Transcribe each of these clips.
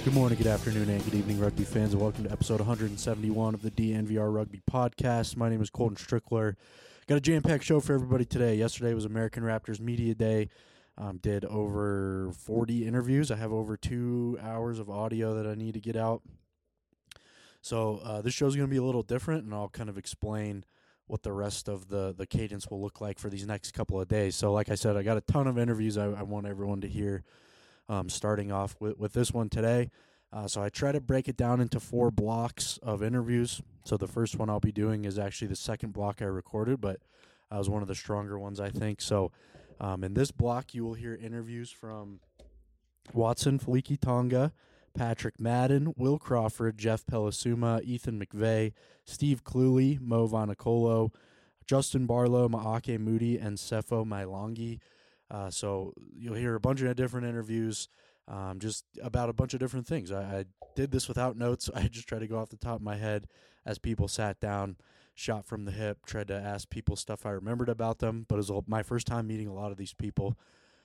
Good morning, good afternoon, and good evening, rugby fans, and welcome to episode 171 of the DNVR Rugby Podcast. My name is Colton Strickler. Got a jam-packed show for everybody today. Yesterday was American Raptors Media Day. Did over 40 interviews. I have over 2 hours of audio that I need to get out. So this show's going to be a little different, and I'll kind of explain what the rest of the cadence will look like for these next couple of days. So like I said, I got a ton of interviews I want everyone to hear. Starting off with this one today. So I try to break it down into 4 blocks of interviews. So the first one I'll be doing is actually the second block I recorded, but it was one of the stronger ones, I think. So in this block, you will hear interviews from Watson Faliki-Tonga, Patrick Madden, Will Crawford, Jeff Pelisuma, Ethan McVeigh, Steve Cluley, Mo Vanacolo, Justin Barlow, Maake Moody, and Sefo Mailangi. So you'll hear a bunch of different interviews just about a bunch of different things. I did this without notes. I just tried to go off the top of my head as people sat down, shot from the hip, tried to ask people stuff I remembered about them, but it was my first time meeting a lot of these people.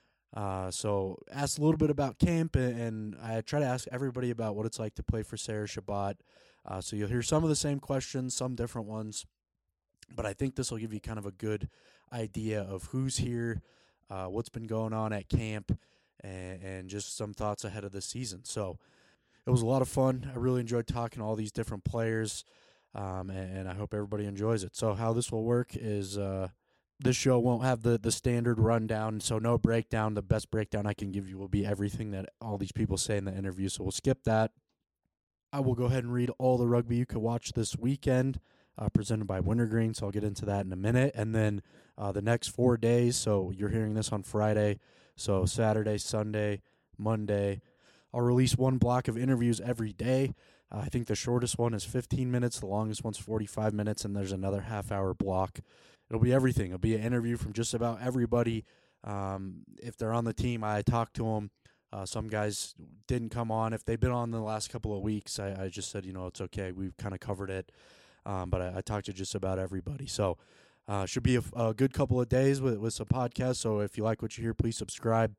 So asked a little bit about camp, and I try to ask everybody about what it's like to play for Sarah Shabbat. So you'll hear some of the same questions, some different ones, but I think this will give you kind of a good idea of who's here, what's been going on at camp, and just some thoughts ahead of the season. So it was a lot of fun. I really enjoyed talking to all these different players, and I hope everybody enjoys it. So how this will work is this show won't have the standard rundown, so no breakdown. The best breakdown I can give you will be everything that all these people say in the interview, so we'll skip that. I will go ahead and read all the rugby you could watch this weekend, presented by Wintergreen, so I'll get into that in a minute. And then the next 4 days, so you're hearing this on Friday, so Saturday, Sunday, Monday, I'll release one block of interviews every day. I think the shortest one is 15 minutes, the longest one's 45 minutes, and there's another half-hour block. It'll be everything. It'll be an interview from just about everybody. If they're on the team, I talk to them. Some guys didn't come on. If they've been on the last couple of weeks, I just said, it's okay. We've kind of covered it. But I talked to just about everybody. So should be a good couple of days with some podcasts. So if you like what you hear, please subscribe.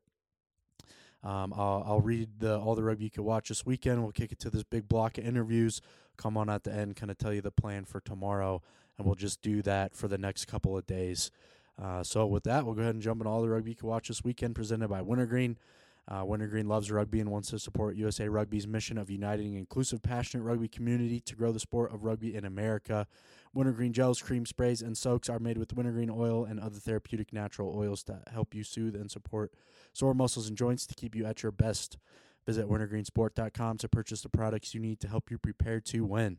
I'll read all the rugby you can watch this weekend. We'll kick it to this big block of interviews. Come on at the end, kind of tell you the plan for tomorrow, and we'll just do that for the next couple of days. So with that, we'll go ahead and jump into all the rugby you can watch this weekend, presented by Wintergreen. Wintergreen loves rugby and wants to support USA Rugby's mission of uniting an inclusive, passionate rugby community to grow the sport of rugby in America. Wintergreen gels, cream sprays, and soaks are made with wintergreen oil and other therapeutic natural oils to help you soothe and support sore muscles and joints to keep you at your best. Visit wintergreensport.com to purchase the products you need to help you prepare to win.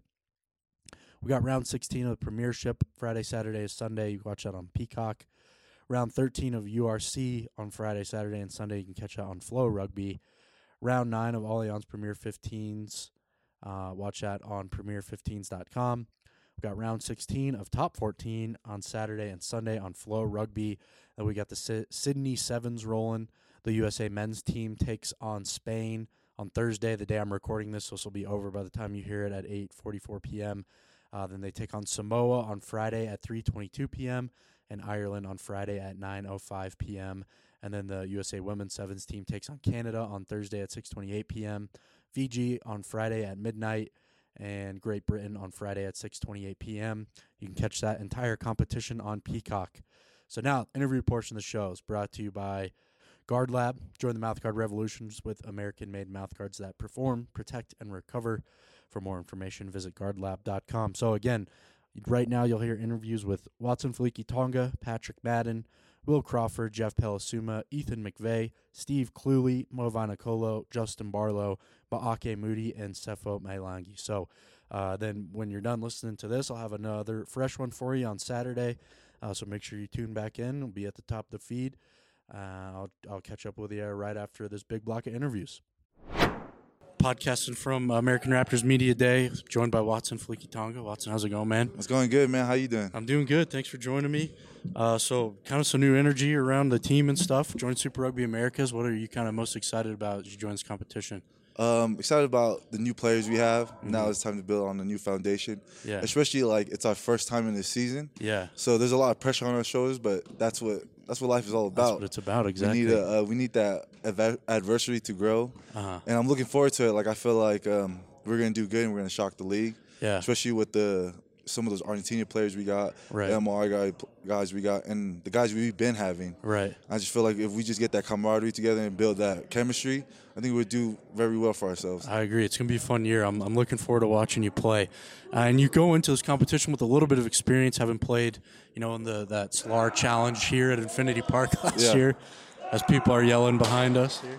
We got round 16 of the Premiership, Friday, Saturday, and Sunday. You can watch that on Peacock. Round 13 of URC on Friday, Saturday, and Sunday. You can catch that on Flow Rugby. Round 9 of Allianz Premier 15s. Watch that on premier15s.com. We've got round 16 of Top 14 on Saturday and Sunday on Flow Rugby. And we got the Sydney Sevens rolling. The USA men's team takes on Spain on Thursday, the day I'm recording this, so this will be over by the time you hear it at 8:44 p.m. Then they take on Samoa on Friday at 3:22 p.m. and Ireland on Friday at 9:05 p.m. And then the USA Women's Sevens team takes on Canada on Thursday at 6:28 p.m., Fiji on Friday at midnight, and Great Britain on Friday at 6:28 p.m. You can catch that entire competition on Peacock. So now, interview portion of the show is brought to you by Guard Lab. Join the mouthguard revolutions with American-made mouthguards that perform, protect, and recover. For more information, visit guardlab.com. So again, right now you'll hear interviews with Watson Faliki-Tonga, Patrick Madden, Will Crawford, Jeff Pelisuma, Ethan McVeigh, Steve Cluley, Mo Vanacolo, Justin Barlow, Maake Moody, and Sefo Mailangi. So then when you're done listening to this, I'll have another fresh one for you on Saturday. So make sure you tune back in. It'll be at the top of the feed. I'll catch up with you right after this big block of interviews. Podcasting from American Raptors Media Day, joined by Watson Faliki-Tonga. Watson, how's it going, man? It's going good, man. How you doing? I'm doing good. Thanks for joining me. So kind of some new energy around the team and stuff. Joined Super Rugby Americas. What are you kind of most excited about as you join this competition? Excited about the new players we have. Mm-hmm. Now it's time to build on a new foundation. Yeah. Especially it's our first time in this season. Yeah. So there's a lot of pressure on our shoulders, but that's what That's what life is all That's about. what it's about, exactly. We need that adversity to grow, Uh-huh. and I'm looking forward to it. Like I feel like we're gonna do good and we're gonna shock the league. Yeah. Especially with some of those Argentina players we got, Right. the MR guys we got, and the guys we've been having. Right. I just feel like if we just get that camaraderie together and build that chemistry, I think we'll do very well for ourselves. I agree. It's going to be a fun year. I'm looking forward to watching you play. And you go into this competition with a little bit of experience, having played, in that SLAR Challenge here at Infinity Park last year, as people are yelling behind us here.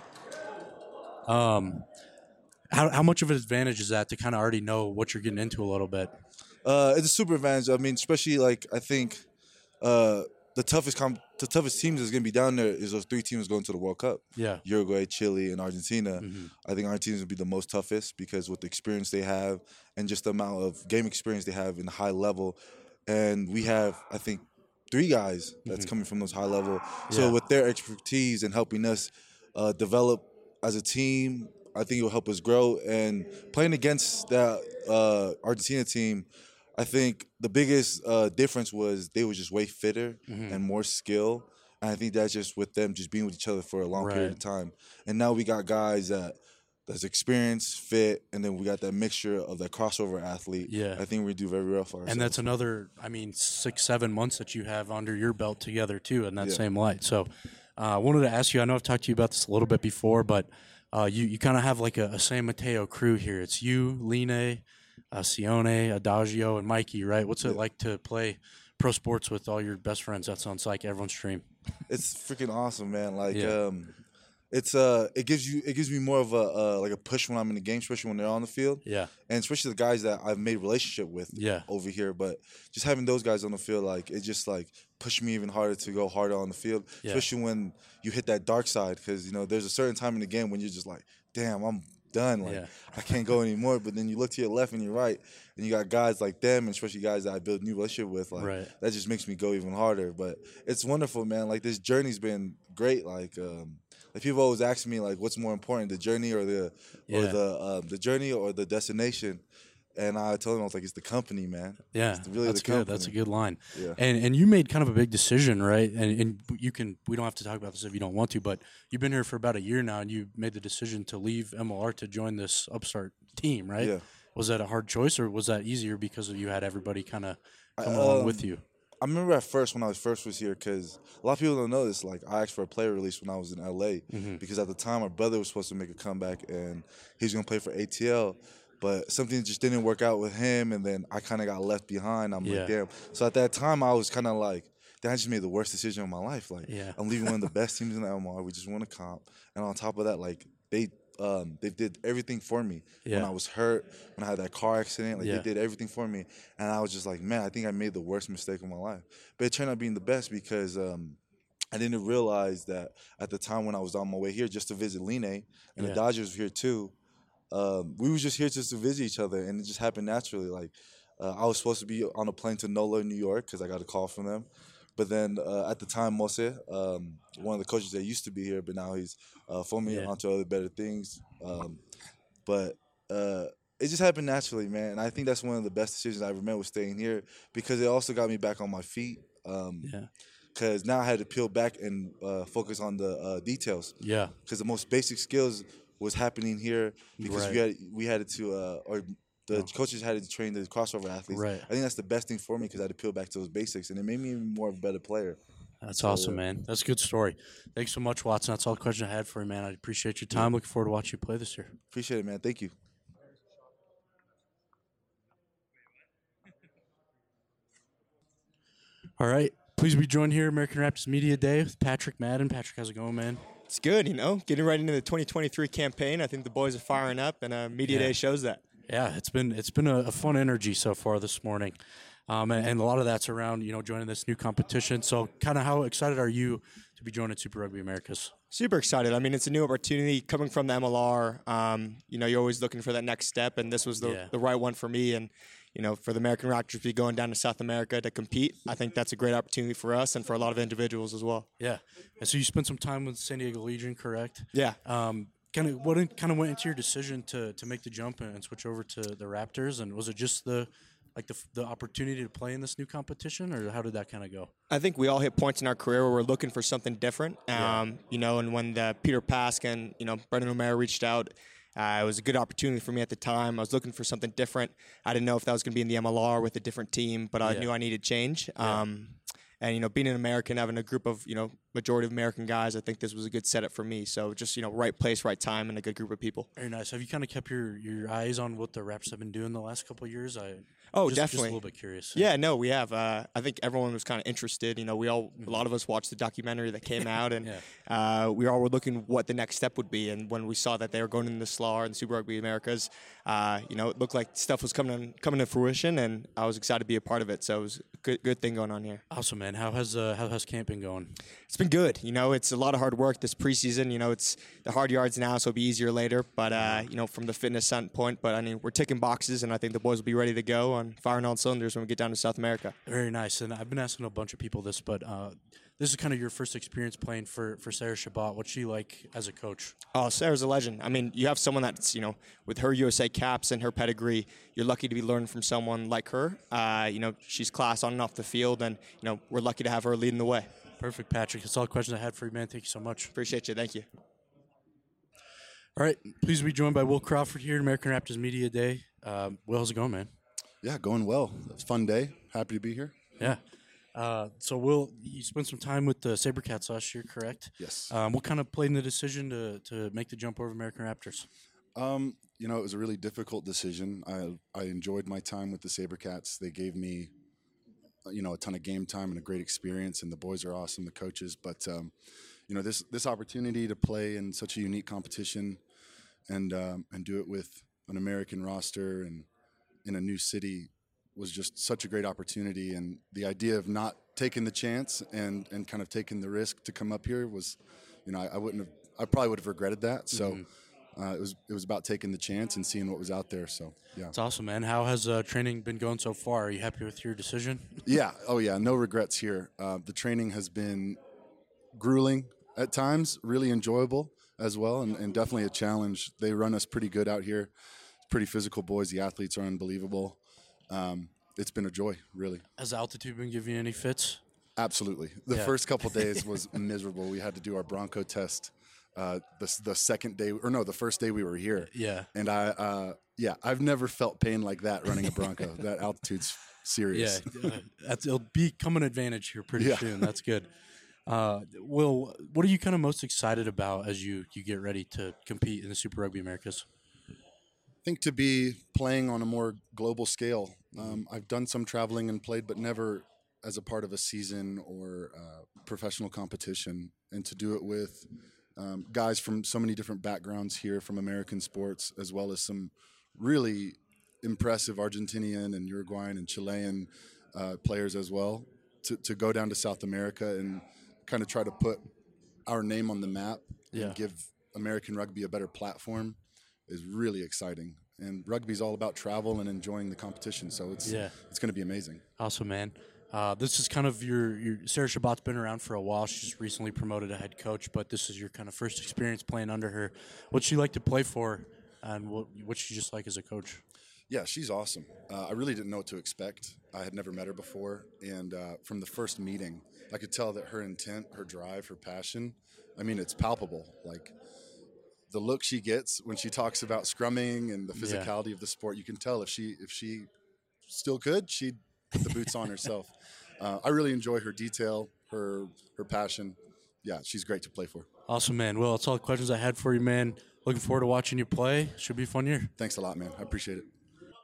How much of an advantage is that to kind of already know what you're getting into a little bit? It's a super advantage. I mean, especially I think the toughest teams that's gonna be down there is those 3 teams going to the World Cup. Yeah. Uruguay, Chile, and Argentina. Mm-hmm. I think Argentina will be the most toughest because with the experience they have and just the amount of game experience they have in the high level, and we have I think 3 guys that's coming from those high level. So with their expertise and helping us develop as a team, I think it will help us grow. And playing against that Argentina team, I think the biggest difference was they were just way fitter and more skill. And I think that's just with them just being with each other for a long period of time. And now we got guys that's experienced, fit, and then we got that mixture of that crossover athlete. Yeah. I think we do very well for ourselves. And that's another, 6-7 months that you have under your belt together, too, in that same light. So I wanted to ask you, I know I've talked to you about this a little bit before, but you kind of have like a San Mateo crew here. It's you, Line, Sione, Adagio, and Mikey, right? What's it like to play pro sports with all your best friends? That sounds like everyone's dream. It's freaking awesome, man. It gives me more of a push when I'm in the game, especially when they're on the field. Yeah. And especially the guys that I've made relationship with over here. But just having those guys on the field, it just pushed me even harder to go harder on the field. Yeah. Especially when you hit that dark side, because there's a certain time in the game when you're just like, damn, I'm done. I can't go anymore. But then you look to your left and your right, and you got guys like them, and especially guys that I build new relationship with. That just makes me go even harder. But it's wonderful, man. This journey's been great. People always ask me what's more important, the journey or the journey or the destination, and I told them I was like, it's the company, man. Yeah, it's really that's the good. company. That's a good line. Yeah. And you made kind of a big decision, right? And we don't have to talk about this if you don't want to, but you've been here for about a year now, and you made the decision to leave MLR to join this upstart team, right? Yeah. Was that a hard choice, or was that easier because you had everybody kind of come along with you? I remember at first when I was here, because a lot of people don't know this. I asked for a player release when I was in LA because at the time my brother was supposed to make a comeback and he was gonna play for ATL, but something just didn't work out with him, and then I kind of got left behind. I'm like, damn. So at that time I was kind of like, damn, I just made the worst decision of my life. I'm leaving one of the best teams in the MR. We just won a comp, and on top of that, they did everything for me when I was hurt, when I had that car accident. They did everything for me, and I was just like, man, I think I made the worst mistake of my life. But it turned out being the best because I didn't realize that at the time when I was on my way here just to visit Line, and the Dodgers were here too. We were just here just to visit each other, and it just happened naturally. I was supposed to be on a plane to NOLA, New York, because I got a call from them. But then at the time, Mose, one of the coaches that used to be here, but now he's me onto other better things. But it just happened naturally, man. And I think that's one of the best decisions I ever made was staying here, because it also got me back on my feet. Because now I had to peel back and focus on the details. Yeah. Because the most basic skills was happening here because we had to the coaches had to train the crossover athletes. Right. I think that's the best thing for me because I had to peel back to those basics, and it made me even more of a better player. That's awesome, man. That's a good story. Thanks so much, Watson. That's all the questions I had for you, man. I appreciate your time. Looking forward to watching you play this year. Appreciate it, man. Thank you. All right. Please be joined here, American Raptors Media Day, with Patrick Madden. Patrick, how's it going, man? It's good, getting right into the 2023 campaign. I think the boys are firing up, and Media Day shows that. Yeah, it's been a fun energy so far this morning, and a lot of that's around joining this new competition. So, kind of how excited are you to be joining Super Rugby Americas? Super excited. I mean, it's a new opportunity coming from the MLR. You're always looking for that next step, and this was the right one for me. And for the American Raptors to be going down to South America to compete, I think that's a great opportunity for us and for a lot of individuals as well. Yeah, and so you spent some time with San Diego Legion, correct? Yeah. What went into your decision to make the jump and switch over to the Raptors? And was it just the like the opportunity to play in this new competition, or how did that kind of go? I think we all hit points in our career where we're looking for something different. And when the Peter Pask and Brendan O'Mara reached out, it was a good opportunity for me at the time. I was looking for something different. I didn't know if that was going to be in the MLR with a different team, but I knew I needed change. And being an American, having a group of majority of American guys, I think this was a good setup for me. So just right place, right time, and a good group of people. Very nice. Have you kind of kept your eyes on what the Raps have been doing the last couple of years? Definitely. Just a little bit curious. Yeah, no, we have. I think everyone was kind of interested. A lot of us watched the documentary that came out, and we all were looking what the next step would be. And when we saw that they were going into the SLAR and Super Rugby Americas, it looked like stuff was coming to fruition, and I was excited to be a part of it. So it was a good thing going on here. Awesome, man. How has camp been going? It's been good. It's a lot of hard work this preseason. It's the hard yards now, so it'll be easier later. But from the fitness standpoint, we're ticking boxes, and I think the boys will be ready to go on firing all cylinders when we get down to South America. Very nice. And I've been asking a bunch of people this, but this is kind of your first experience playing for Sarah Chabot. What's she like as a coach? Oh, Sarah's a legend. I mean, you have someone that's, with her USA caps and her pedigree, you're lucky to be learning from someone like her. She's class on and off the field, and, we're lucky to have her leading the way. Perfect, Patrick. That's all the questions I had for you, man. Thank you so much. Appreciate you. Thank you. All right. Pleased to be joined by Will Crawford here at American Raptors Media Day. Will, how's it going, man? Yeah, going well. It's a fun day. Happy to be here. Yeah. So, Will, you spent some time with the SaberCats last year, correct? Yes. What kind of played in the decision to make the jump over American Raptors? It was a really difficult decision. I enjoyed my time with the SaberCats. They gave me, a ton of game time and a great experience, and the boys are awesome, the coaches. But, this opportunity to play in such a unique competition and do it with an American roster and in a new city was just such a great opportunity. And the idea of not taking the chance and kind of taking the risk to come up here was, I probably would have regretted that. So it was about taking the chance and seeing what was out there. So, yeah. It's awesome, man. How has training been going so far? Are you happy with your decision? Yeah. Oh, yeah. No regrets here. The training has been grueling at times, really enjoyable as well, and definitely a challenge. They run us pretty good out here. Pretty physical boys. The athletes are unbelievable. It's been a joy, really. Has altitude been giving you any fits? Absolutely. The first couple days was miserable. We had to do our Bronco test the second day, or no, the first day we were here. Yeah. And I've never felt pain like that running a Bronco. That altitude's serious. Yeah. It'll become an advantage here pretty soon. That's good. Will, what are you kind of most excited about as you get ready to compete in the Super Rugby Americas? I think to be playing on a more global scale. I've done some traveling and played, but never as a part of a season or professional competition. And to do it with guys from so many different backgrounds here from American sports, as well as some really impressive Argentinian and Uruguayan and Chilean players as well, to go down to South America and kind of try to put our name on the map and give American rugby a better platform is really exciting. And rugby's all about travel and enjoying the competition, so it's going to be amazing. Awesome, man. This is kind of your Sarah Chabot's been around for a while. She's just recently promoted a head coach, but this is your kind of first experience playing under her. What's she like to play for, and what's she just like as a coach? Yeah, she's awesome. I really didn't know what to expect. I had never met her before, and from the first meeting, I could tell that her intent, her drive, her passion, it's palpable. Like, the look she gets when she talks about scrumming and the physicality of the sport, you can tell if she still could, she'd put the boots on herself. I really enjoy her detail, her passion. Yeah, she's great to play for. Awesome, man. Well, that's all the questions I had for you, man. Looking forward to watching you play. Should be a fun year. Thanks a lot, man. I appreciate it.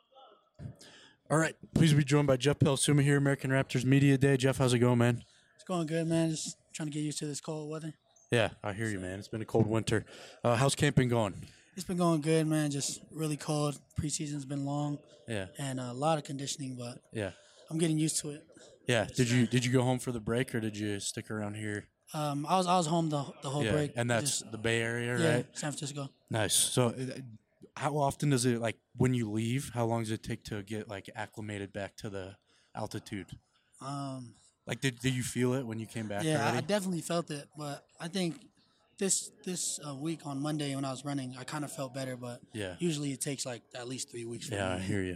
All right. Please be joined by Jeff Pelsuma here, American Raptors Media Day. Jeff, how's it going, man? It's going good, man. Just trying to get used to this cold weather. Yeah, I hear you, man. It's been a cold winter. How's camp been going? It's been going good, man. Just really cold. Preseason's been long. Yeah. And a lot of conditioning, but yeah, I'm getting used to it. Yeah. Did you go home for the break, or did you stick around here? I was home the whole break. And that's the Bay Area, right? Yeah, San Francisco. Nice. So how often does it, like, when you leave, how long does it take to get, like, acclimated back to the altitude? Like, did you feel it when you came back? Yeah, already? I definitely felt it, but I think this week on Monday when I was running, I kind of felt better, but usually it takes like at least 3 weeks. Yeah, I hear you.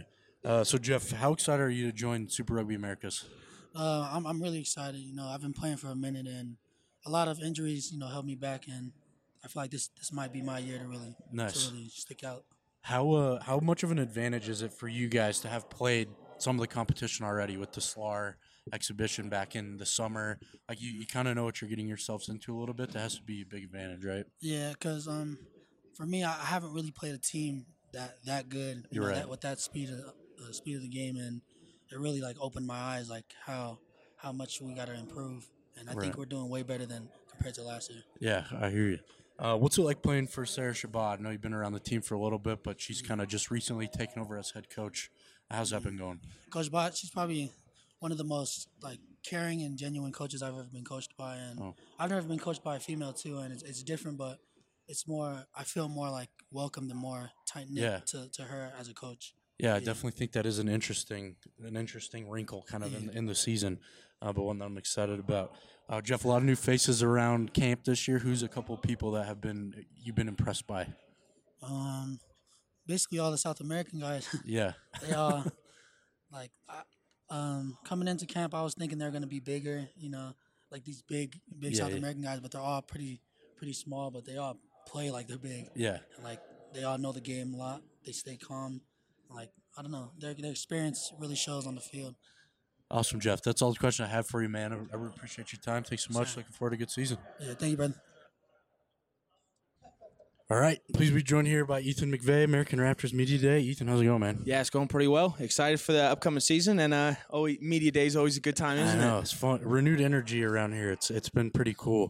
So Jeff, how excited are you to join Super Rugby Americas? I'm really excited. I've been playing for a minute, and a lot of injuries, held me back, and I feel like this might be my year to really stick out. How much of an advantage is it for you guys to have played some of the competition already with the SLAR exhibition back in the summer? Like you kind of know what you're getting yourselves into a little bit. That has to be a big advantage, right? Yeah, because for me, I haven't really played a team that good. You're right. That with that speed of the game, and it really like opened my eyes, like how much we got to improve, and I think we're doing way better than compared to last year. Yeah, I hear you. What's it like playing for Sarah Shabbat? I know you've been around the team for a little bit, but she's kind of just recently taken over as head coach. How's that been going? Coach Bott, she's probably one of the most like caring and genuine coaches I've ever been coached by, and I've never been coached by a female too, and it's different, but it's more. I feel more like welcomed and more tight knit to her as a coach. Yeah, I definitely think that is an interesting wrinkle kind of in the season, but one that I'm excited about. Jeff, a lot of new faces around camp this year. Who's a couple of people that you've been impressed by? Basically all the South American guys. Yeah. They all coming into camp, I was thinking they're gonna be bigger, like these big South American guys, but they're all pretty small, but they all play like they're big. Yeah. And, like they all know the game a lot. They stay calm. Like I don't know, their experience really shows on the field. Awesome, Jeff. That's all the question I have for you, man. I really appreciate your time. Thanks so much. Looking forward to a good season. Yeah, thank you, brother. All right. Please be joined here by Ethan McVeigh, American Raptors Media Day. Ethan, how's it going, man? Yeah, it's going pretty well. Excited for the upcoming season, and Media Day is always a good time, isn't it? I know. It's fun. Renewed energy around here. It's been pretty cool.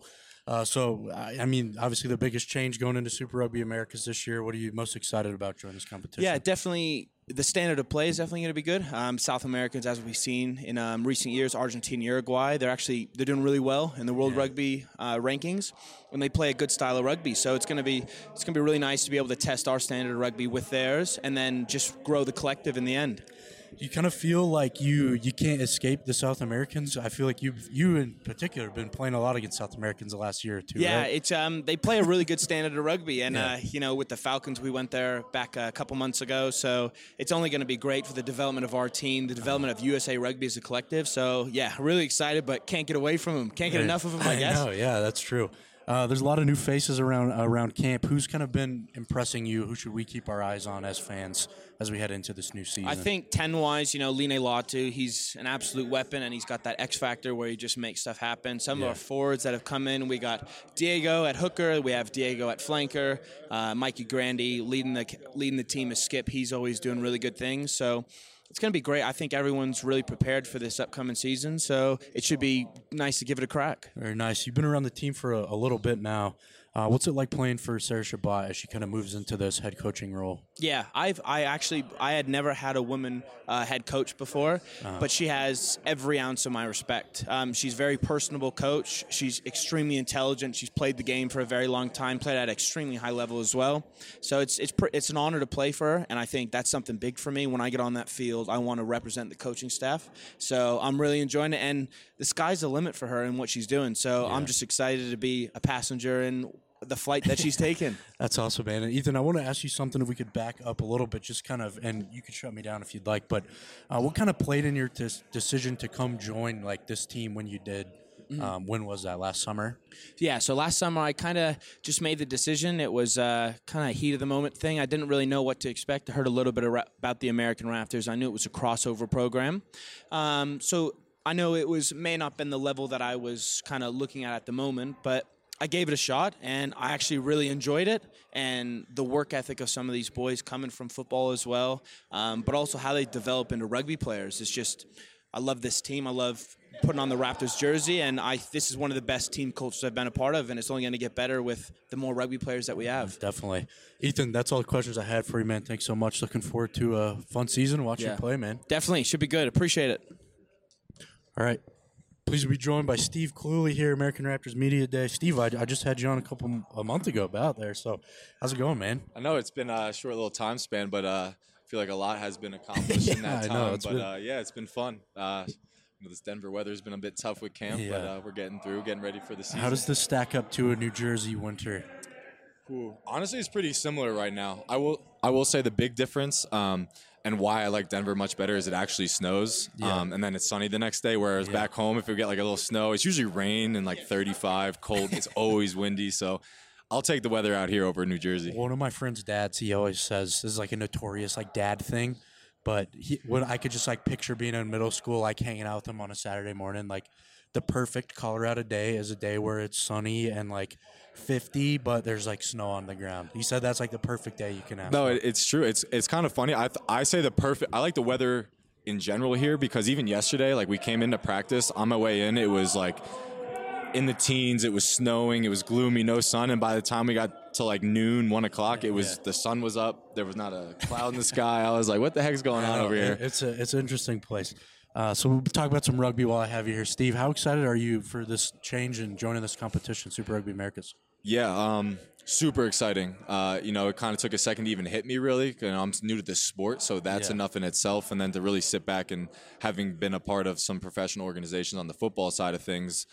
I mean, obviously the biggest change going into Super Rugby Americas this year. What are you most excited about during this competition? Yeah, definitely. The standard of play is definitely going to be good. South Americans, as we've seen in recent years, Argentina, Uruguay, they're doing really well in the World Rugby rankings, and they play a good style of rugby. So it's going to be really nice to be able to test our standard of rugby with theirs, and then just grow the collective in the end. You kind of feel like you can't escape the South Americans. I feel like you in particular have been playing a lot against South Americans the last year or two. Yeah, right? it's they play a really good standard of rugby, and with the Falcons, we went there back a couple months ago, so it's only going to be great for the development of our team, the development of USA Rugby as a collective. So yeah, really excited, but can't get away from them. Can't get enough of them, I guess. I know, yeah, that's true. There's a lot of new faces around camp. Who's kind of been impressing you? Who should we keep our eyes on as fans as we head into this new season? I think 10-wise, Line Latu, he's an absolute weapon, and he's got that X factor where he just makes stuff happen. Some of our forwards that have come in, we got Diego at hooker, we have Diego at flanker, Mikey Grandy leading the team as skip. He's always doing really good things. So it's going to be great. I think everyone's really prepared for this upcoming season, so it should be nice to give it a crack. Very nice. You've been around the team for a little bit now. What's it like playing for Sarah Shabbat as she kind of moves into this head coaching role? Yeah, I had never had a woman head coach before, but she has every ounce of my respect. She's a very personable coach. She's extremely intelligent. She's played the game for a very long time, played at an extremely high level as well. So it's an honor to play for her, and I think that's something big for me. When I get on that field, I want to represent the coaching staff. So I'm really enjoying it, and the sky's the limit for her and what she's doing. So I'm just excited to be a passenger in the flight that she's taken. That's awesome, man. And Ethan, I want to ask you something if we could back up a little bit, just kind of, and you could shut me down if you'd like, but what kind of played in your decision to come join like this team when you did? When was that, last summer? Yeah, so last summer I kind of just made the decision. It was kind of heat of the moment thing. I didn't really know what to expect. I heard a little bit about the American Raptors. I knew it was a crossover program. So I know it may not been the level that I was kind of looking at the moment, but I gave it a shot, and I actually really enjoyed it, and the work ethic of some of these boys coming from football as well, but also how they develop into rugby players. It's just, I love this team. I love putting on the Raptors jersey, and this is one of the best team cultures I've been a part of, and it's only going to get better with the more rugby players that we have. Definitely. Ethan, that's all the questions I had for you, man. Thanks so much. Looking forward to a fun season. Watch you play, man. Definitely. Should be good. Appreciate it. All right. Pleased to be joined by Steve Cluley here, American Raptors Media Day. Steve, I just had you on a month ago about there, so how's it going, man? I know it's been a short little time span, but I feel like a lot has been accomplished in that time. It's been fun. This Denver weather's been a bit tough with camp, but we're getting ready for the season. How does this stack up to a New Jersey winter? Honestly, it's pretty similar right now. I will say the big difference And why I like Denver much better is it actually snows, and then it's sunny the next day. Whereas back home, if we get like a little snow, it's usually rain and like 35, cold. It's always windy. So I'll take the weather out here over New Jersey. One of my friend's dads, he always says this is like a notorious like dad thing, but when I could just like picture being in middle school, like hanging out with him on a Saturday morning, like the perfect Colorado day is a day where it's sunny and like 50, but there's like snow on the ground. He said that's like the perfect day you can have. No, it's true. It's kind of funny. I say I like the weather in general here because even yesterday, like we came into practice on my way in, it was like in the teens, it was snowing, it was gloomy, no sun, and by the time we got to like noon, 1 o'clock, it was the sun was up, there was not a cloud in the sky. I was like, what the heck's going on over here? It's an interesting place. So we'll talk about some rugby while I have you here. Steve, how excited are you for this change and joining this competition, Super Rugby Americas? Yeah, super exciting. It kind of took a second to even hit me, really. I'm new to this sport, so that's enough in itself. And then to really sit back and having been a part of some professional organizations on the football side of things,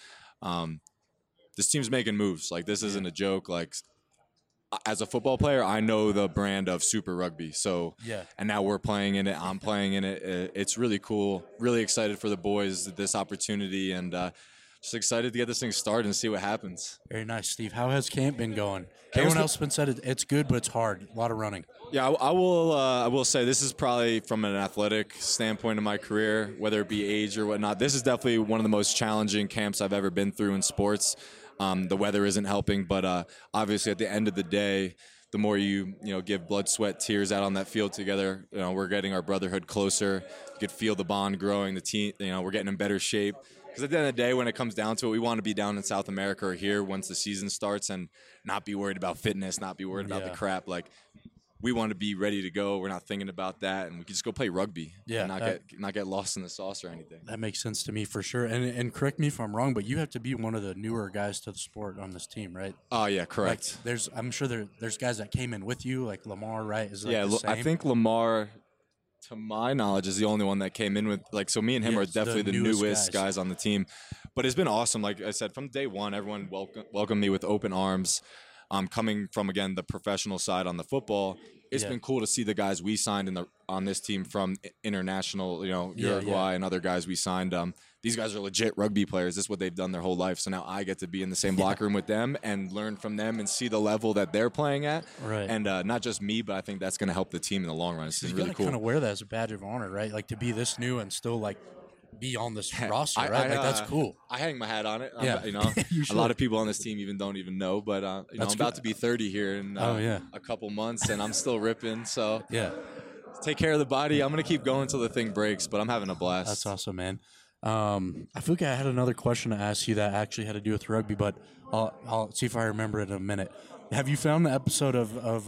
this team's making moves. Like, this isn't a joke. Like, as a football player, I know the brand of Super Rugby. So, and now we're playing in it. I'm playing in it. It's really cool. Really excited for the boys, this opportunity, and just excited to get this thing started and see what happens. Very nice, Steve. How has camp been going? Everyone else has been said it's good, but it's hard. A lot of running. Yeah, I will say this is probably from an athletic standpoint in my career, whether it be age or whatnot. This is definitely one of the most challenging camps I've ever been through in sports. The weather isn't helping, but obviously at the end of the day, the more you give blood, sweat, tears out on that field together, we're getting our brotherhood closer. You could feel the bond growing. The team, we're getting in better shape. Because at the end of the day, when it comes down to it, we want to be down in South America or here once the season starts and not be worried about fitness, not be worried about the crap. Like, we want to be ready to go. We're not thinking about that, and we can just go play rugby. Yeah, and not get lost in the sauce or anything. That makes sense to me for sure. And correct me if I'm wrong, but you have to be one of the newer guys to the sport on this team, right? Oh yeah, correct. Like, I'm sure there's guys that came in with you, like Lamar, right? Is the same? I think Lamar, to my knowledge, is the only one that came in with, like, so me and him are definitely the newest guys on the team. But it's been awesome. Like I said, from day one, everyone welcomed me with open arms. Coming from, again, the professional side on the football, it's been cool to see the guys we signed on this team from international, Uruguay and other guys we signed. These guys are legit rugby players. This is what they've done their whole life. So now I get to be in the same locker room with them and learn from them and see the level that they're playing at. Right. And not just me, but I think that's going to help the team in the long run. It's really cool. You kind of wear that as a badge of honor, right? Like, to be this new and still, like, be on this roster, right? Like, that's cool. I hang my hat on it. Yeah. A lot of people on this team don't even know, but I'm about to be 30 here in a couple months, and I'm still ripping. So take care of the body. I'm gonna keep going until the thing breaks, but I'm having a blast. That's awesome, man. I feel like I had another question to ask you that actually had to do with rugby, but I'll see if I remember it in a minute. Have you found the episode of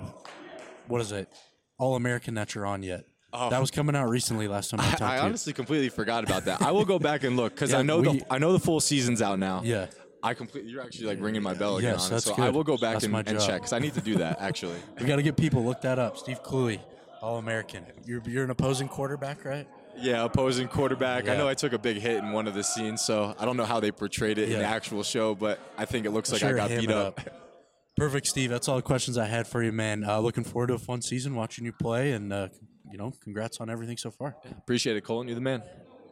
what is it, All American that you're on yet? Oh. That was coming out recently last time I talked to you. I honestly completely forgot about that. I will go back and look because I know the full season's out now. Yeah. You're actually like ringing my bell again. Yes, on that's it. So good. I will go back and check because I need to do that actually. We got to get people look that up. Steve Cluey, All-American. You're an opposing quarterback, right? Yeah, opposing quarterback. Yeah. I know I took a big hit in one of the scenes, so I don't know how they portrayed it in the actual show, but I think it looks like I got beat up. Perfect, Steve. That's all the questions I had for you, man. Looking forward to a fun season, watching you play, and congrats on everything so far. Yeah, appreciate it, Colin. You're the man.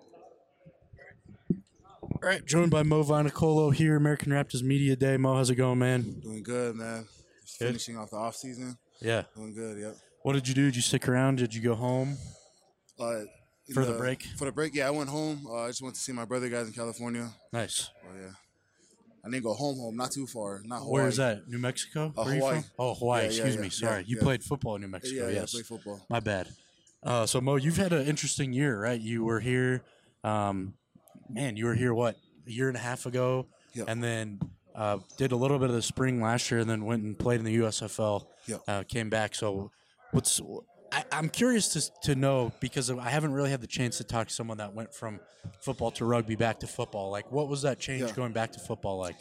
All right, joined by Mo Vainicolo here, American Raptors Media Day. Mo, how's it going, man? Doing good, man. Just finishing off the off season. Yeah. Doing good, yep. What did you do? Did you stick around? Did you go home? For the break? For the break, yeah, I went home. I just went to see my brother guys in California. Nice. Oh, yeah. I didn't go home, not too far. Not Hawaii. Where is that? New Mexico? Where Hawaii. You from? Oh, Hawaii. Excuse me. Sorry. You played football in New Mexico. Yeah, yes. I played football. My bad. So, Mo, you've had an interesting year, right? You were here, you were here, what, a year and a half ago? Yep. And then did a little bit of the spring last year and then went and played in the USFL. Yep. Came back. So I'm curious to know, because I haven't really had the chance to talk to someone that went from football to rugby back to football. Like, what was that change going back to football like?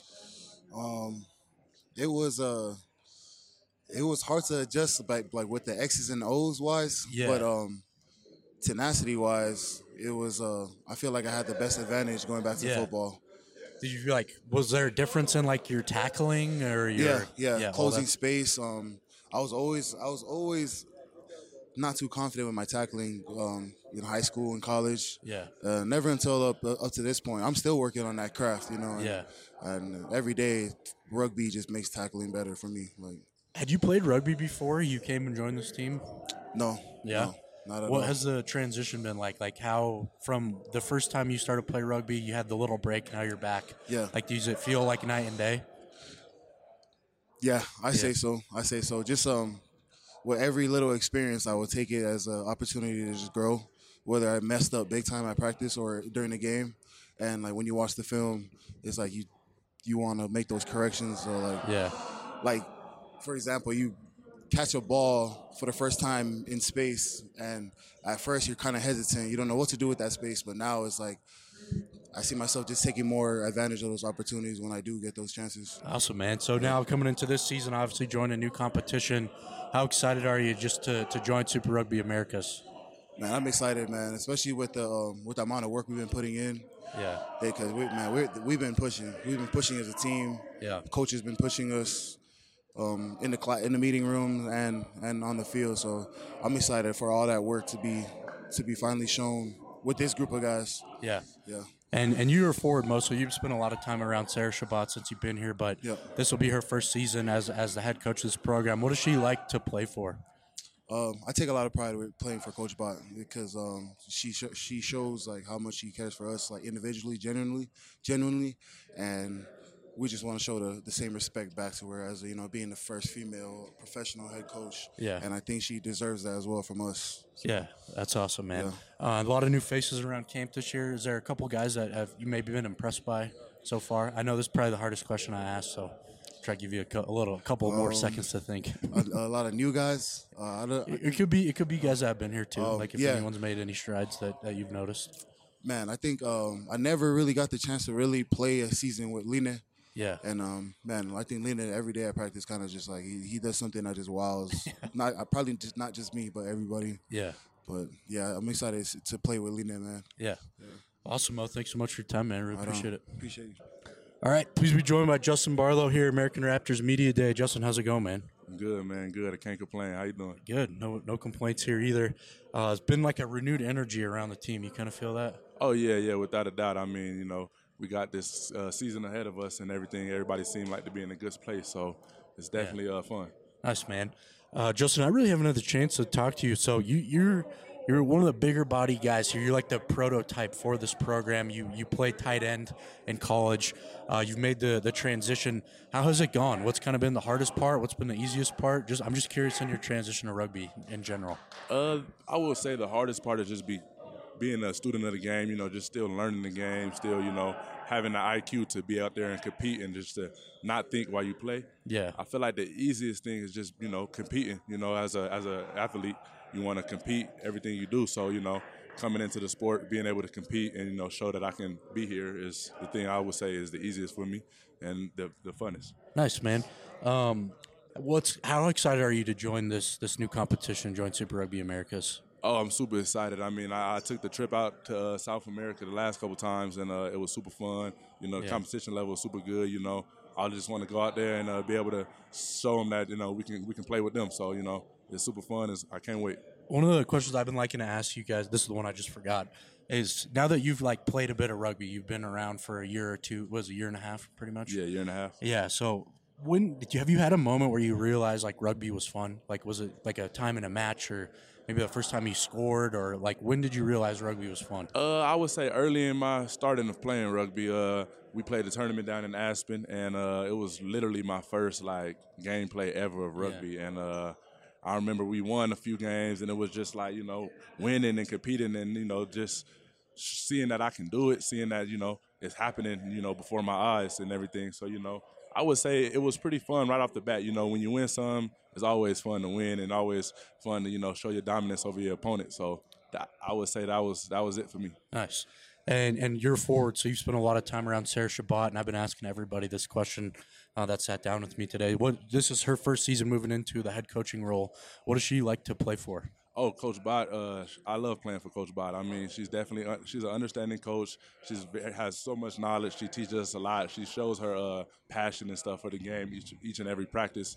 It was hard to adjust, like with the X's and O's wise. Yeah. But tenacity wise, it was. I feel like I had the best advantage going back to football. Did you feel like, was there a difference in like your tackling or your closing space? I was always not too confident with my tackling in high school and college. Yeah. Never until up to this point. I'm still working on that craft, And, Yeah. and every day, rugby just makes tackling better for me. Like, Had you played rugby before you came and joined this team? no. Yeah. No, not at What all. has the transition been like? Like how from the first time you started play rugby, you had the little break, now you're back. Yeah. Like, does it feel like night and day? Yeah, I say so. Just with every little experience, I will take it as an opportunity to just grow. Whether I messed up big time at practice or during the game, and like when you watch the film, it's like you want to make those corrections. Or Yeah. like for example, you catch a ball for the first time in space, and at first you're kind of hesitant. You don't know what to do with that space, but now it's like I see myself just taking more advantage of those opportunities when I do get those chances. Awesome, man. So now coming into this season, obviously joining a new competition. How excited are you just to join Super Rugby Americas? Man, I'm excited, man, especially with the amount of work we've been putting in. Yeah. Because we've been pushing. We've been pushing as a team. Yeah. The coach has been pushing us in the meeting room and on the field. So I'm excited for all that work to be finally shown with this group of guys. Yeah. Yeah. And you were forward most, so you've spent a lot of time around Sarah Shabbat since you've been here, but this will be her first season as the head coach of this program. What does she like to play for? I take a lot of pride with playing for Coach Bott because she shows like how much she cares for us, like individually, genuinely, and we just want to show the same respect back to her as being the first female professional head coach. Yeah. And I think she deserves that as well from us. Yeah, that's awesome, man. Yeah. A lot of new faces around camp this year. Is there a couple guys that have you maybe been impressed by so far? I know this is probably the hardest question I asked, so try to give you a couple more seconds to think. A lot of new guys. It could be guys that have been here too. Like if yeah. anyone's made any strides that you've noticed. Man, I think I never really got the chance to really play a season with Line. Yeah. And man, I think Line every day at practice kind of just like he does something that just wows. Probably not just me, but everybody. Yeah. But yeah, I'm excited to play with Line, man. Yeah. Awesome, Mo. Thanks so much for your time, man. Really appreciate it. Appreciate you. All right, please be joined by Justin Barlow here, American Raptors Media Day. Justin, how's it going, man? Good, man. Good. I can't complain. How you doing? Good. No complaints here either. It's been like a renewed energy around the team. You kind of feel that? Oh, yeah, without a doubt. I mean, we got this season ahead of us and everything. Everybody seemed like to be in a good place, so it's definitely fun. Nice, man. Justin, I really haven't had the chance to talk to you. So you're one of the bigger body guys here. You're like the prototype for this program. You played tight end in college. You've made the transition. How has it gone? What's kind of been the hardest part? What's been the easiest part? I'm just curious on your transition to rugby in general. I will say the hardest part is just being a student of the game, just still learning the game, still, having the IQ to be out there and compete and just to not think while you play. Yeah. I feel like the easiest thing is just, competing, as a athlete. You want to compete everything you do. So, coming into the sport, being able to compete and, show that I can be here is the thing I would say is the easiest for me and the funnest. Nice, man. How excited are you to join this new competition, join Super Rugby Americas? Oh, I'm super excited. I mean, I took the trip out to South America the last couple times, and it was super fun. The competition level was super good. I just want to go out there and be able to show them that we can play with them. So it's super fun. I can't wait. One of the questions I've been liking to ask you guys, this is the one I just forgot, is now that you've played a bit of rugby, you've been around for a year or two, a year and a half pretty much? Yeah, year and a half. Yeah, so have you had a moment where you realized rugby was fun? Was it a time in a match or maybe the first time you scored, or when did you realize rugby was fun? I would say early in my starting of playing rugby, we played a tournament down in Aspen, and it was literally my first gameplay ever of rugby. Yeah. And I remember we won a few games, and it was just winning and competing, and just seeing that I can do it, seeing that it's happening, before my eyes and everything. So I would say it was pretty fun right off the bat. When you win some, it's always fun to win and always fun to show your dominance over your opponent. So I would say that was it for me. Nice. And you're forward, so you've spent a lot of time around Sarah Shabbat, and I've been asking everybody this question that sat down with me today. This is her first season moving into the head coaching role. What does she like to play for? Oh, Coach Bott, I love playing for Coach Bott. I mean, she's definitely she's an understanding coach. She has so much knowledge. She teaches us a lot. She shows her passion and stuff for the game each and every practice.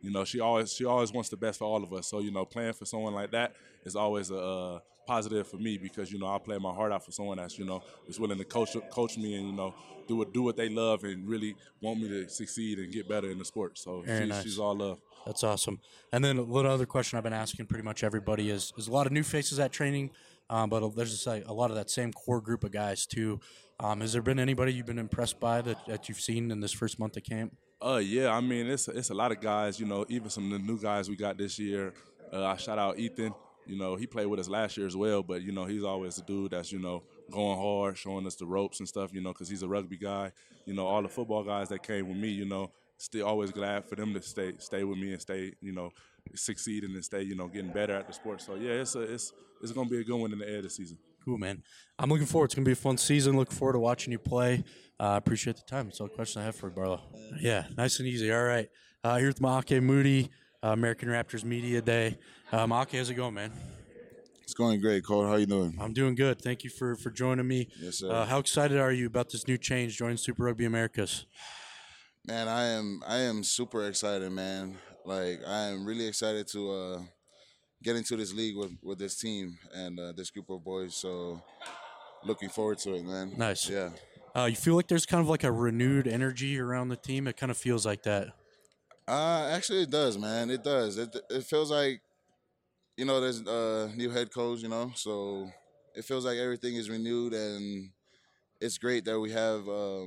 You know, she always wants the best for all of us. So, you know, playing for someone like that is always a positive for me because, you know, I play my heart out for someone that's, you know, is willing to coach me and, you know, do what they love and really want me to succeed and get better in the sport. So she's all love. That's awesome. And then a little other question I've been asking pretty much everybody is a lot of new faces at training, but there's just like a lot of that same core group of guys too. Has there been anybody you've been impressed by that you've seen in this first month of camp? Yeah, I mean, it's a lot of guys, you know, even some of the new guys we got this year. I shout out Ethan. You know, he played with us last year as well, but, you know, he's always the dude that's, you know, going hard, showing us the ropes and stuff, you know, because he's a rugby guy. You know, all the football guys that came with me, you know, still always glad for them to stay with me and stay, you know, succeeding and stay, you know, getting better at the sport. So, yeah, it's going to be a good one in the end of the season. Cool, man. I'm looking forward. It's going to be a fun season. Looking forward to watching you play. Appreciate the time. That's all the question I have for you, Barlow. Yeah, nice and easy. All right. Here with Maake Moody, American Raptors Media Day. Maake, how's it going, man? It's going great, Cole. How you doing? I'm doing good. Thank you for joining me. Yes, sir. How excited are you about this new change, joining Super Rugby Americas? Man, I am super excited, man. Like, I am really excited to get into this league with this team and this group of boys. So, looking forward to it, man. Nice. Yeah. You feel like there's kind of like a renewed energy around the team? It kind of feels like that. Actually, it does, man. It does. It feels like, you know, there's a new head coach, you know, so it feels like everything is renewed, and it's great that we have,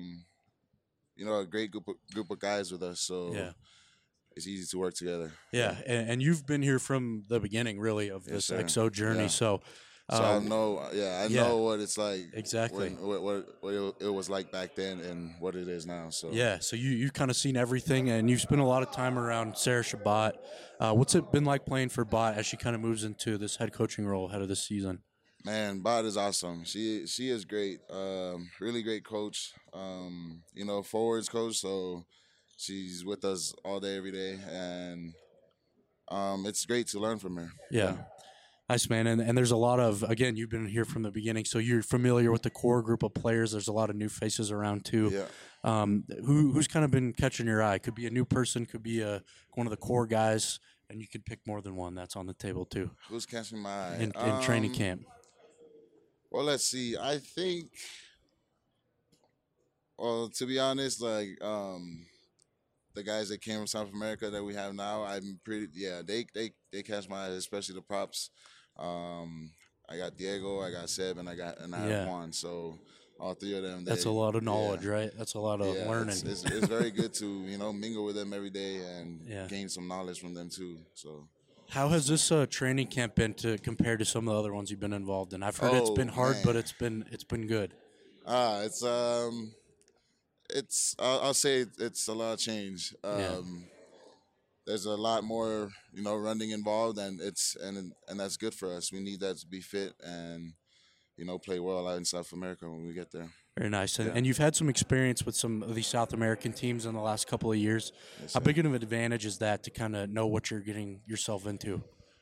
you know, a great group of guys with us. So Yeah. it's easy to work together. Yeah, and you've been here from the beginning, really, of this sir. XO journey. Yeah. So I know, I know what it's like. Exactly. What it was like back then and what it is now. So yeah, so you've kind of seen everything, and you've spent a lot of time around Sarah Shabbat. What's it been like playing for Bot as she kind of moves into this head coaching role ahead of this season? Man, Bot is awesome. She is great. Really great coach. You know, forwards coach. So she's with us all day, every day, and it's great to learn from her. Yeah. Nice, man. And there's a lot of, again, you've been here from the beginning, so you're familiar with the core group of players. There's a lot of new faces around, too. Yeah. Who's kind of been catching your eye? Could be a new person, could be one of the core guys, and you could pick more than one. That's on the table, too. Who's catching my eye? In training camp. Well, let's see. I think, well, to be honest, like, the guys that came from South America that we have now, they catch my eye, especially the props. I got Diego, I got Seb, and I have Juan. So all three of them. That's a lot of knowledge, right? That's a lot of learning. It's very good to, you know, mingle with them every day and gain some knowledge from them too. So. How has this training camp been compared to some of the other ones you've been involved in? I've heard it's been hard, man. but it's been good. I'll say it's a lot of change. There's a lot more, you know, running involved, and that's good for us. We need that to be fit and, you know, play well out in South America when we get there. Very nice. And you've had some experience with some of these South American teams in the last couple of years. Yes, How big of an advantage is that to kind of know what you're getting yourself into?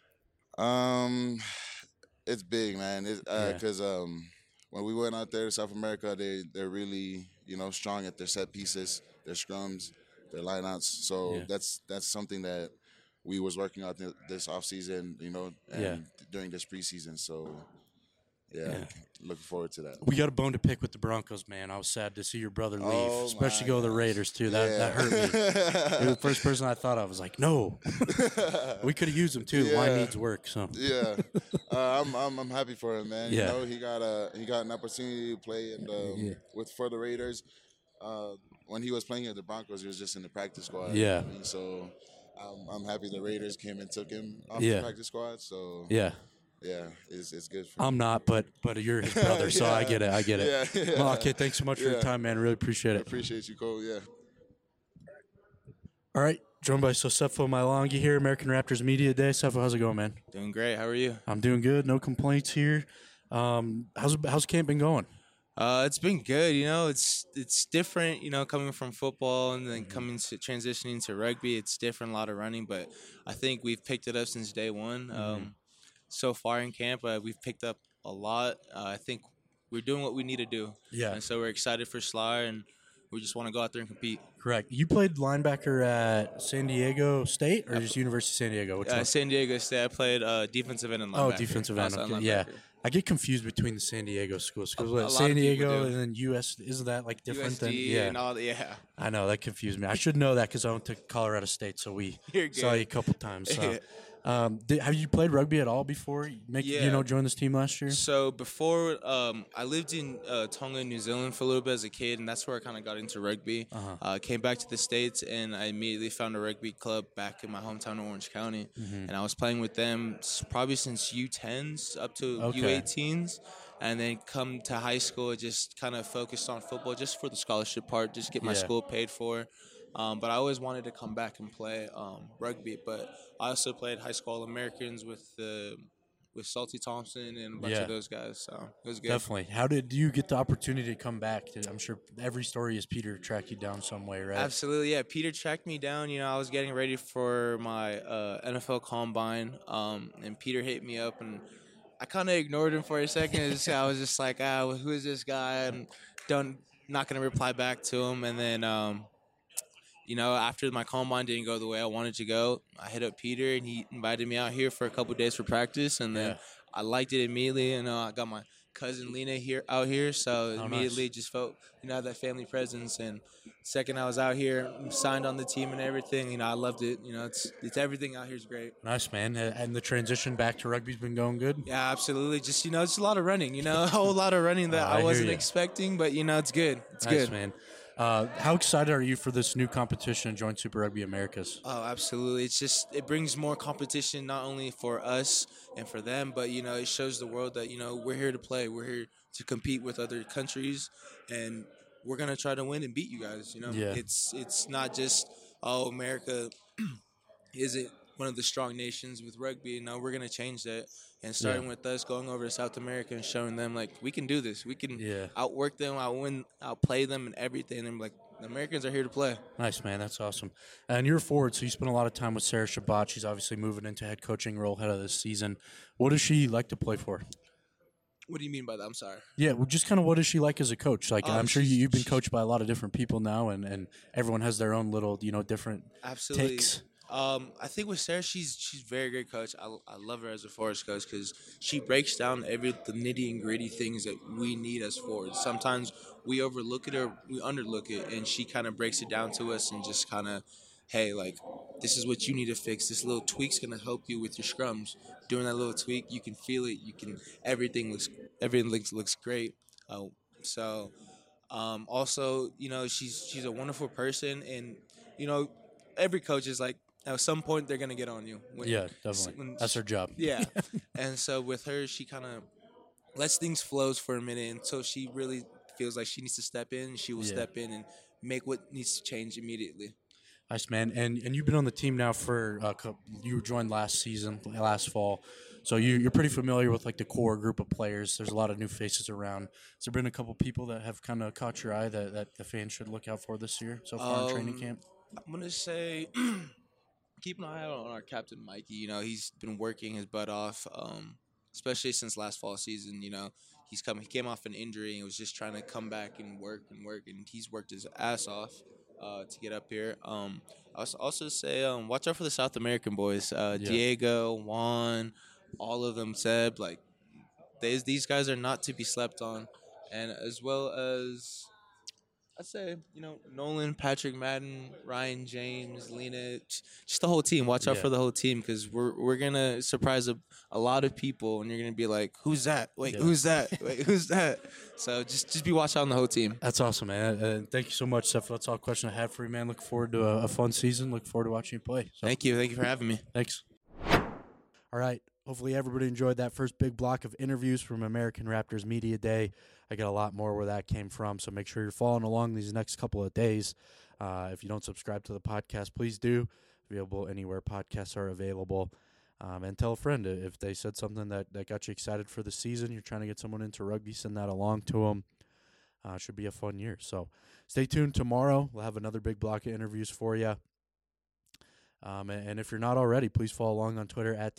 It's big, man. Because when we went out there to South America, they're really, you know, strong at their set pieces, their scrums, their lineouts. So that's something that we was working out this offseason, you know, and during this preseason. So, looking forward to that. We got a bone to pick with the Broncos, man. I was sad to see your brother leave, especially go to the Raiders, too. That hurt me. You're the first person I thought of. I was like, no. We could have used him, too. Yeah. Line needs work. So I'm happy for him, man. Yeah. You know, he got an opportunity to play for the Raiders. When he was playing at the Broncos, he was just in the practice squad. Yeah. So I'm happy the Raiders came and took him off the practice squad. So yeah, it's good for I'm not, but you're his brother, so I get it. Yeah. Well, okay, thanks so much for your time, man. Really appreciate it. I appreciate you, Cole. Yeah. All right, joined by Sosefo Mailangi here, American Raptors Media Day. Sefo, how's it going, man? Doing great. How are you? I'm doing good. No complaints here. How's camp been going? It's been good. You know, it's different. You know, coming from football and then transitioning to rugby, it's different. A lot of running, but I think we've picked it up since day one. So far in camp, we've picked up a lot. I think we're doing what we need to do. Yeah. And so we're excited for Slar, and we just want to go out there and compete. Correct. You played linebacker at San Diego State or just University of San Diego? Which one? San Diego State. I played defensive end and linebacker. Oh, defensive end. Outside Okay. Yeah. linebacker. I get confused between the San Diego schools. A Because lot San of people Diego do. and then US, isn't that like different than? USD Yeah. and all that. Yeah. I know, that confused me. I should know that because I went to Colorado State, so we You're saw good. you a couple times. So. Have you played rugby at all before? Yeah. Join this team last year? So before, I lived in Tonga, New Zealand for a little bit as a kid, and that's where I kind of got into rugby. Came back to the States, and I immediately found a rugby club back in my hometown of Orange County. And I was playing with them probably since U10s up to U18s. And then come to high school, I just kind of focused on football just for the scholarship part, just get my school paid for. But I always wanted to come back and play rugby. But I also played high school All-Americans with Salty Thompson and a bunch of those guys. So it was good. Definitely. How did you get the opportunity to come back? I'm sure every story is Peter tracked you down some way, right? Absolutely, yeah. Peter tracked me down. I was getting ready for my NFL Combine, and Peter hit me up, and I kind of ignored him for a second. I was just like, who is this guy? And not going to reply back to him. And then, after my Combine didn't go the way I wanted to go, I hit up Peter, and he invited me out here for a couple of days for practice. And then I liked it immediately. I got my cousin Lena out here, so immediately just felt that family presence. And second I was out here, signed on the team and everything. I loved it. It's everything out here is great. Nice, man. And the transition back to rugby's been going good. Yeah, absolutely. Just it's a lot of running. A whole lot of running that I wasn't expecting, but it's good. It's nice, good, man. How excited are you for this new competition, Joint Super Rugby Americas? Oh, absolutely. It brings more competition, not only for us and for them, but, it shows the world that, we're here to play. We're here to compete with other countries, and we're going to try to win and beat you guys. It's not just, America isn't one of the strong nations with rugby. No, we're going to change that. And starting with us going over to South America and showing them, we can do this. We can outwork them, outplay them and everything. And, the Americans are here to play. Nice, man. That's awesome. And you're a forward, so you spend a lot of time with Sarah Shabbat. She's obviously moving into head coaching role ahead of this season. What does she like to play for? What do you mean by that? I'm sorry. Yeah, well, just kind of what is she like as a coach? I'm sure you've been coached by a lot of different people now, and everyone has their own little, different takes. I think with Sarah, she's a very great coach. I love her as a forwards coach because she breaks down the nitty and gritty things that we need as forwards. Sometimes we overlook it or we underlook it, and she kind of breaks it down to us and just kind of, hey, this is what you need to fix. This little tweak's gonna help you with your scrums. Doing that little tweak, you can feel it. Everything looks great. Also, she's a wonderful person, and every coach is like, at some point they're gonna get on you. Definitely. That's her job. Yeah, and so with her, she kind of lets things flow for a minute until she really feels like she needs to step in. She will step in and make what needs to change immediately. Nice, man. And you've been on the team now for you joined last fall, so you're pretty familiar with the core group of players. There's a lot of new faces around. Has there been a couple people that have kind of caught your eye that the fans should look out for this year so far in training camp? I'm gonna say keep an eye out on our captain Mikey. He's been working his butt off, especially since last fall season. He came off an injury and was just trying to come back and work, and he's worked his ass off to get up here. I also say watch out for the South American boys, Diego, Juan, all of them. Seb, these guys are not to be slept on, and as well as I'd say, Nolan, Patrick Madden, Ryan James, Lena, just the whole team. Watch out for the whole team because we're going to surprise a lot of people, and you're going to be like, who's that? Wait, who's that? Wait, who's that? So just be watch out on the whole team. That's awesome, man. Thank you so much, Seth. That's all the question I have for you, man. Look forward to a fun season. Look forward to watching you play. So. Thank you. Thank you for having me. Thanks. All right. Hopefully everybody enjoyed that first big block of interviews from American Raptors Media Day. I got a lot more where that came from, so make sure you're following along these next couple of days. If you don't subscribe to the podcast, please do. Available anywhere podcasts are available. And tell a friend if they said something that got you excited for the season. You're trying to get someone into rugby, send that along to them. Should be a fun year. So stay tuned. Tomorrow we'll have another big block of interviews for you. And if you're not already, please follow along on Twitter at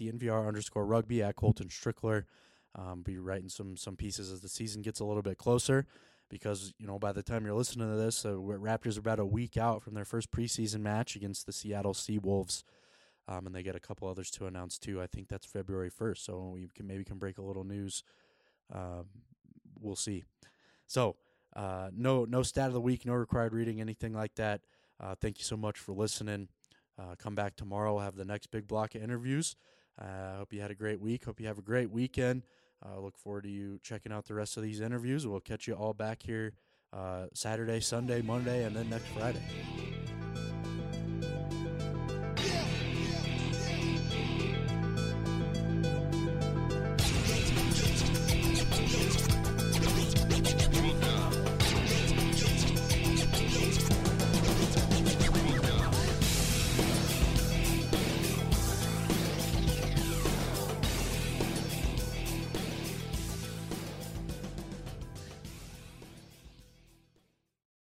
@DNVR_rugby, at Colton Strickler. Be writing some pieces as the season gets a little bit closer. because, by the time you're listening to this, Raptors are about a week out from their first preseason match against the Seattle Seawolves, and they get a couple others to announce too. I think that's February 1st, so we can break a little news. We'll see. So, no stat of the week, no required reading, anything like that. Thank you so much for listening. Come back tomorrow. We'll have the next big block of interviews. Hope you had a great week. Hope you have a great weekend. Look forward to you checking out the rest of these interviews. We'll catch you all back here Saturday, Sunday, Monday, and then next Friday.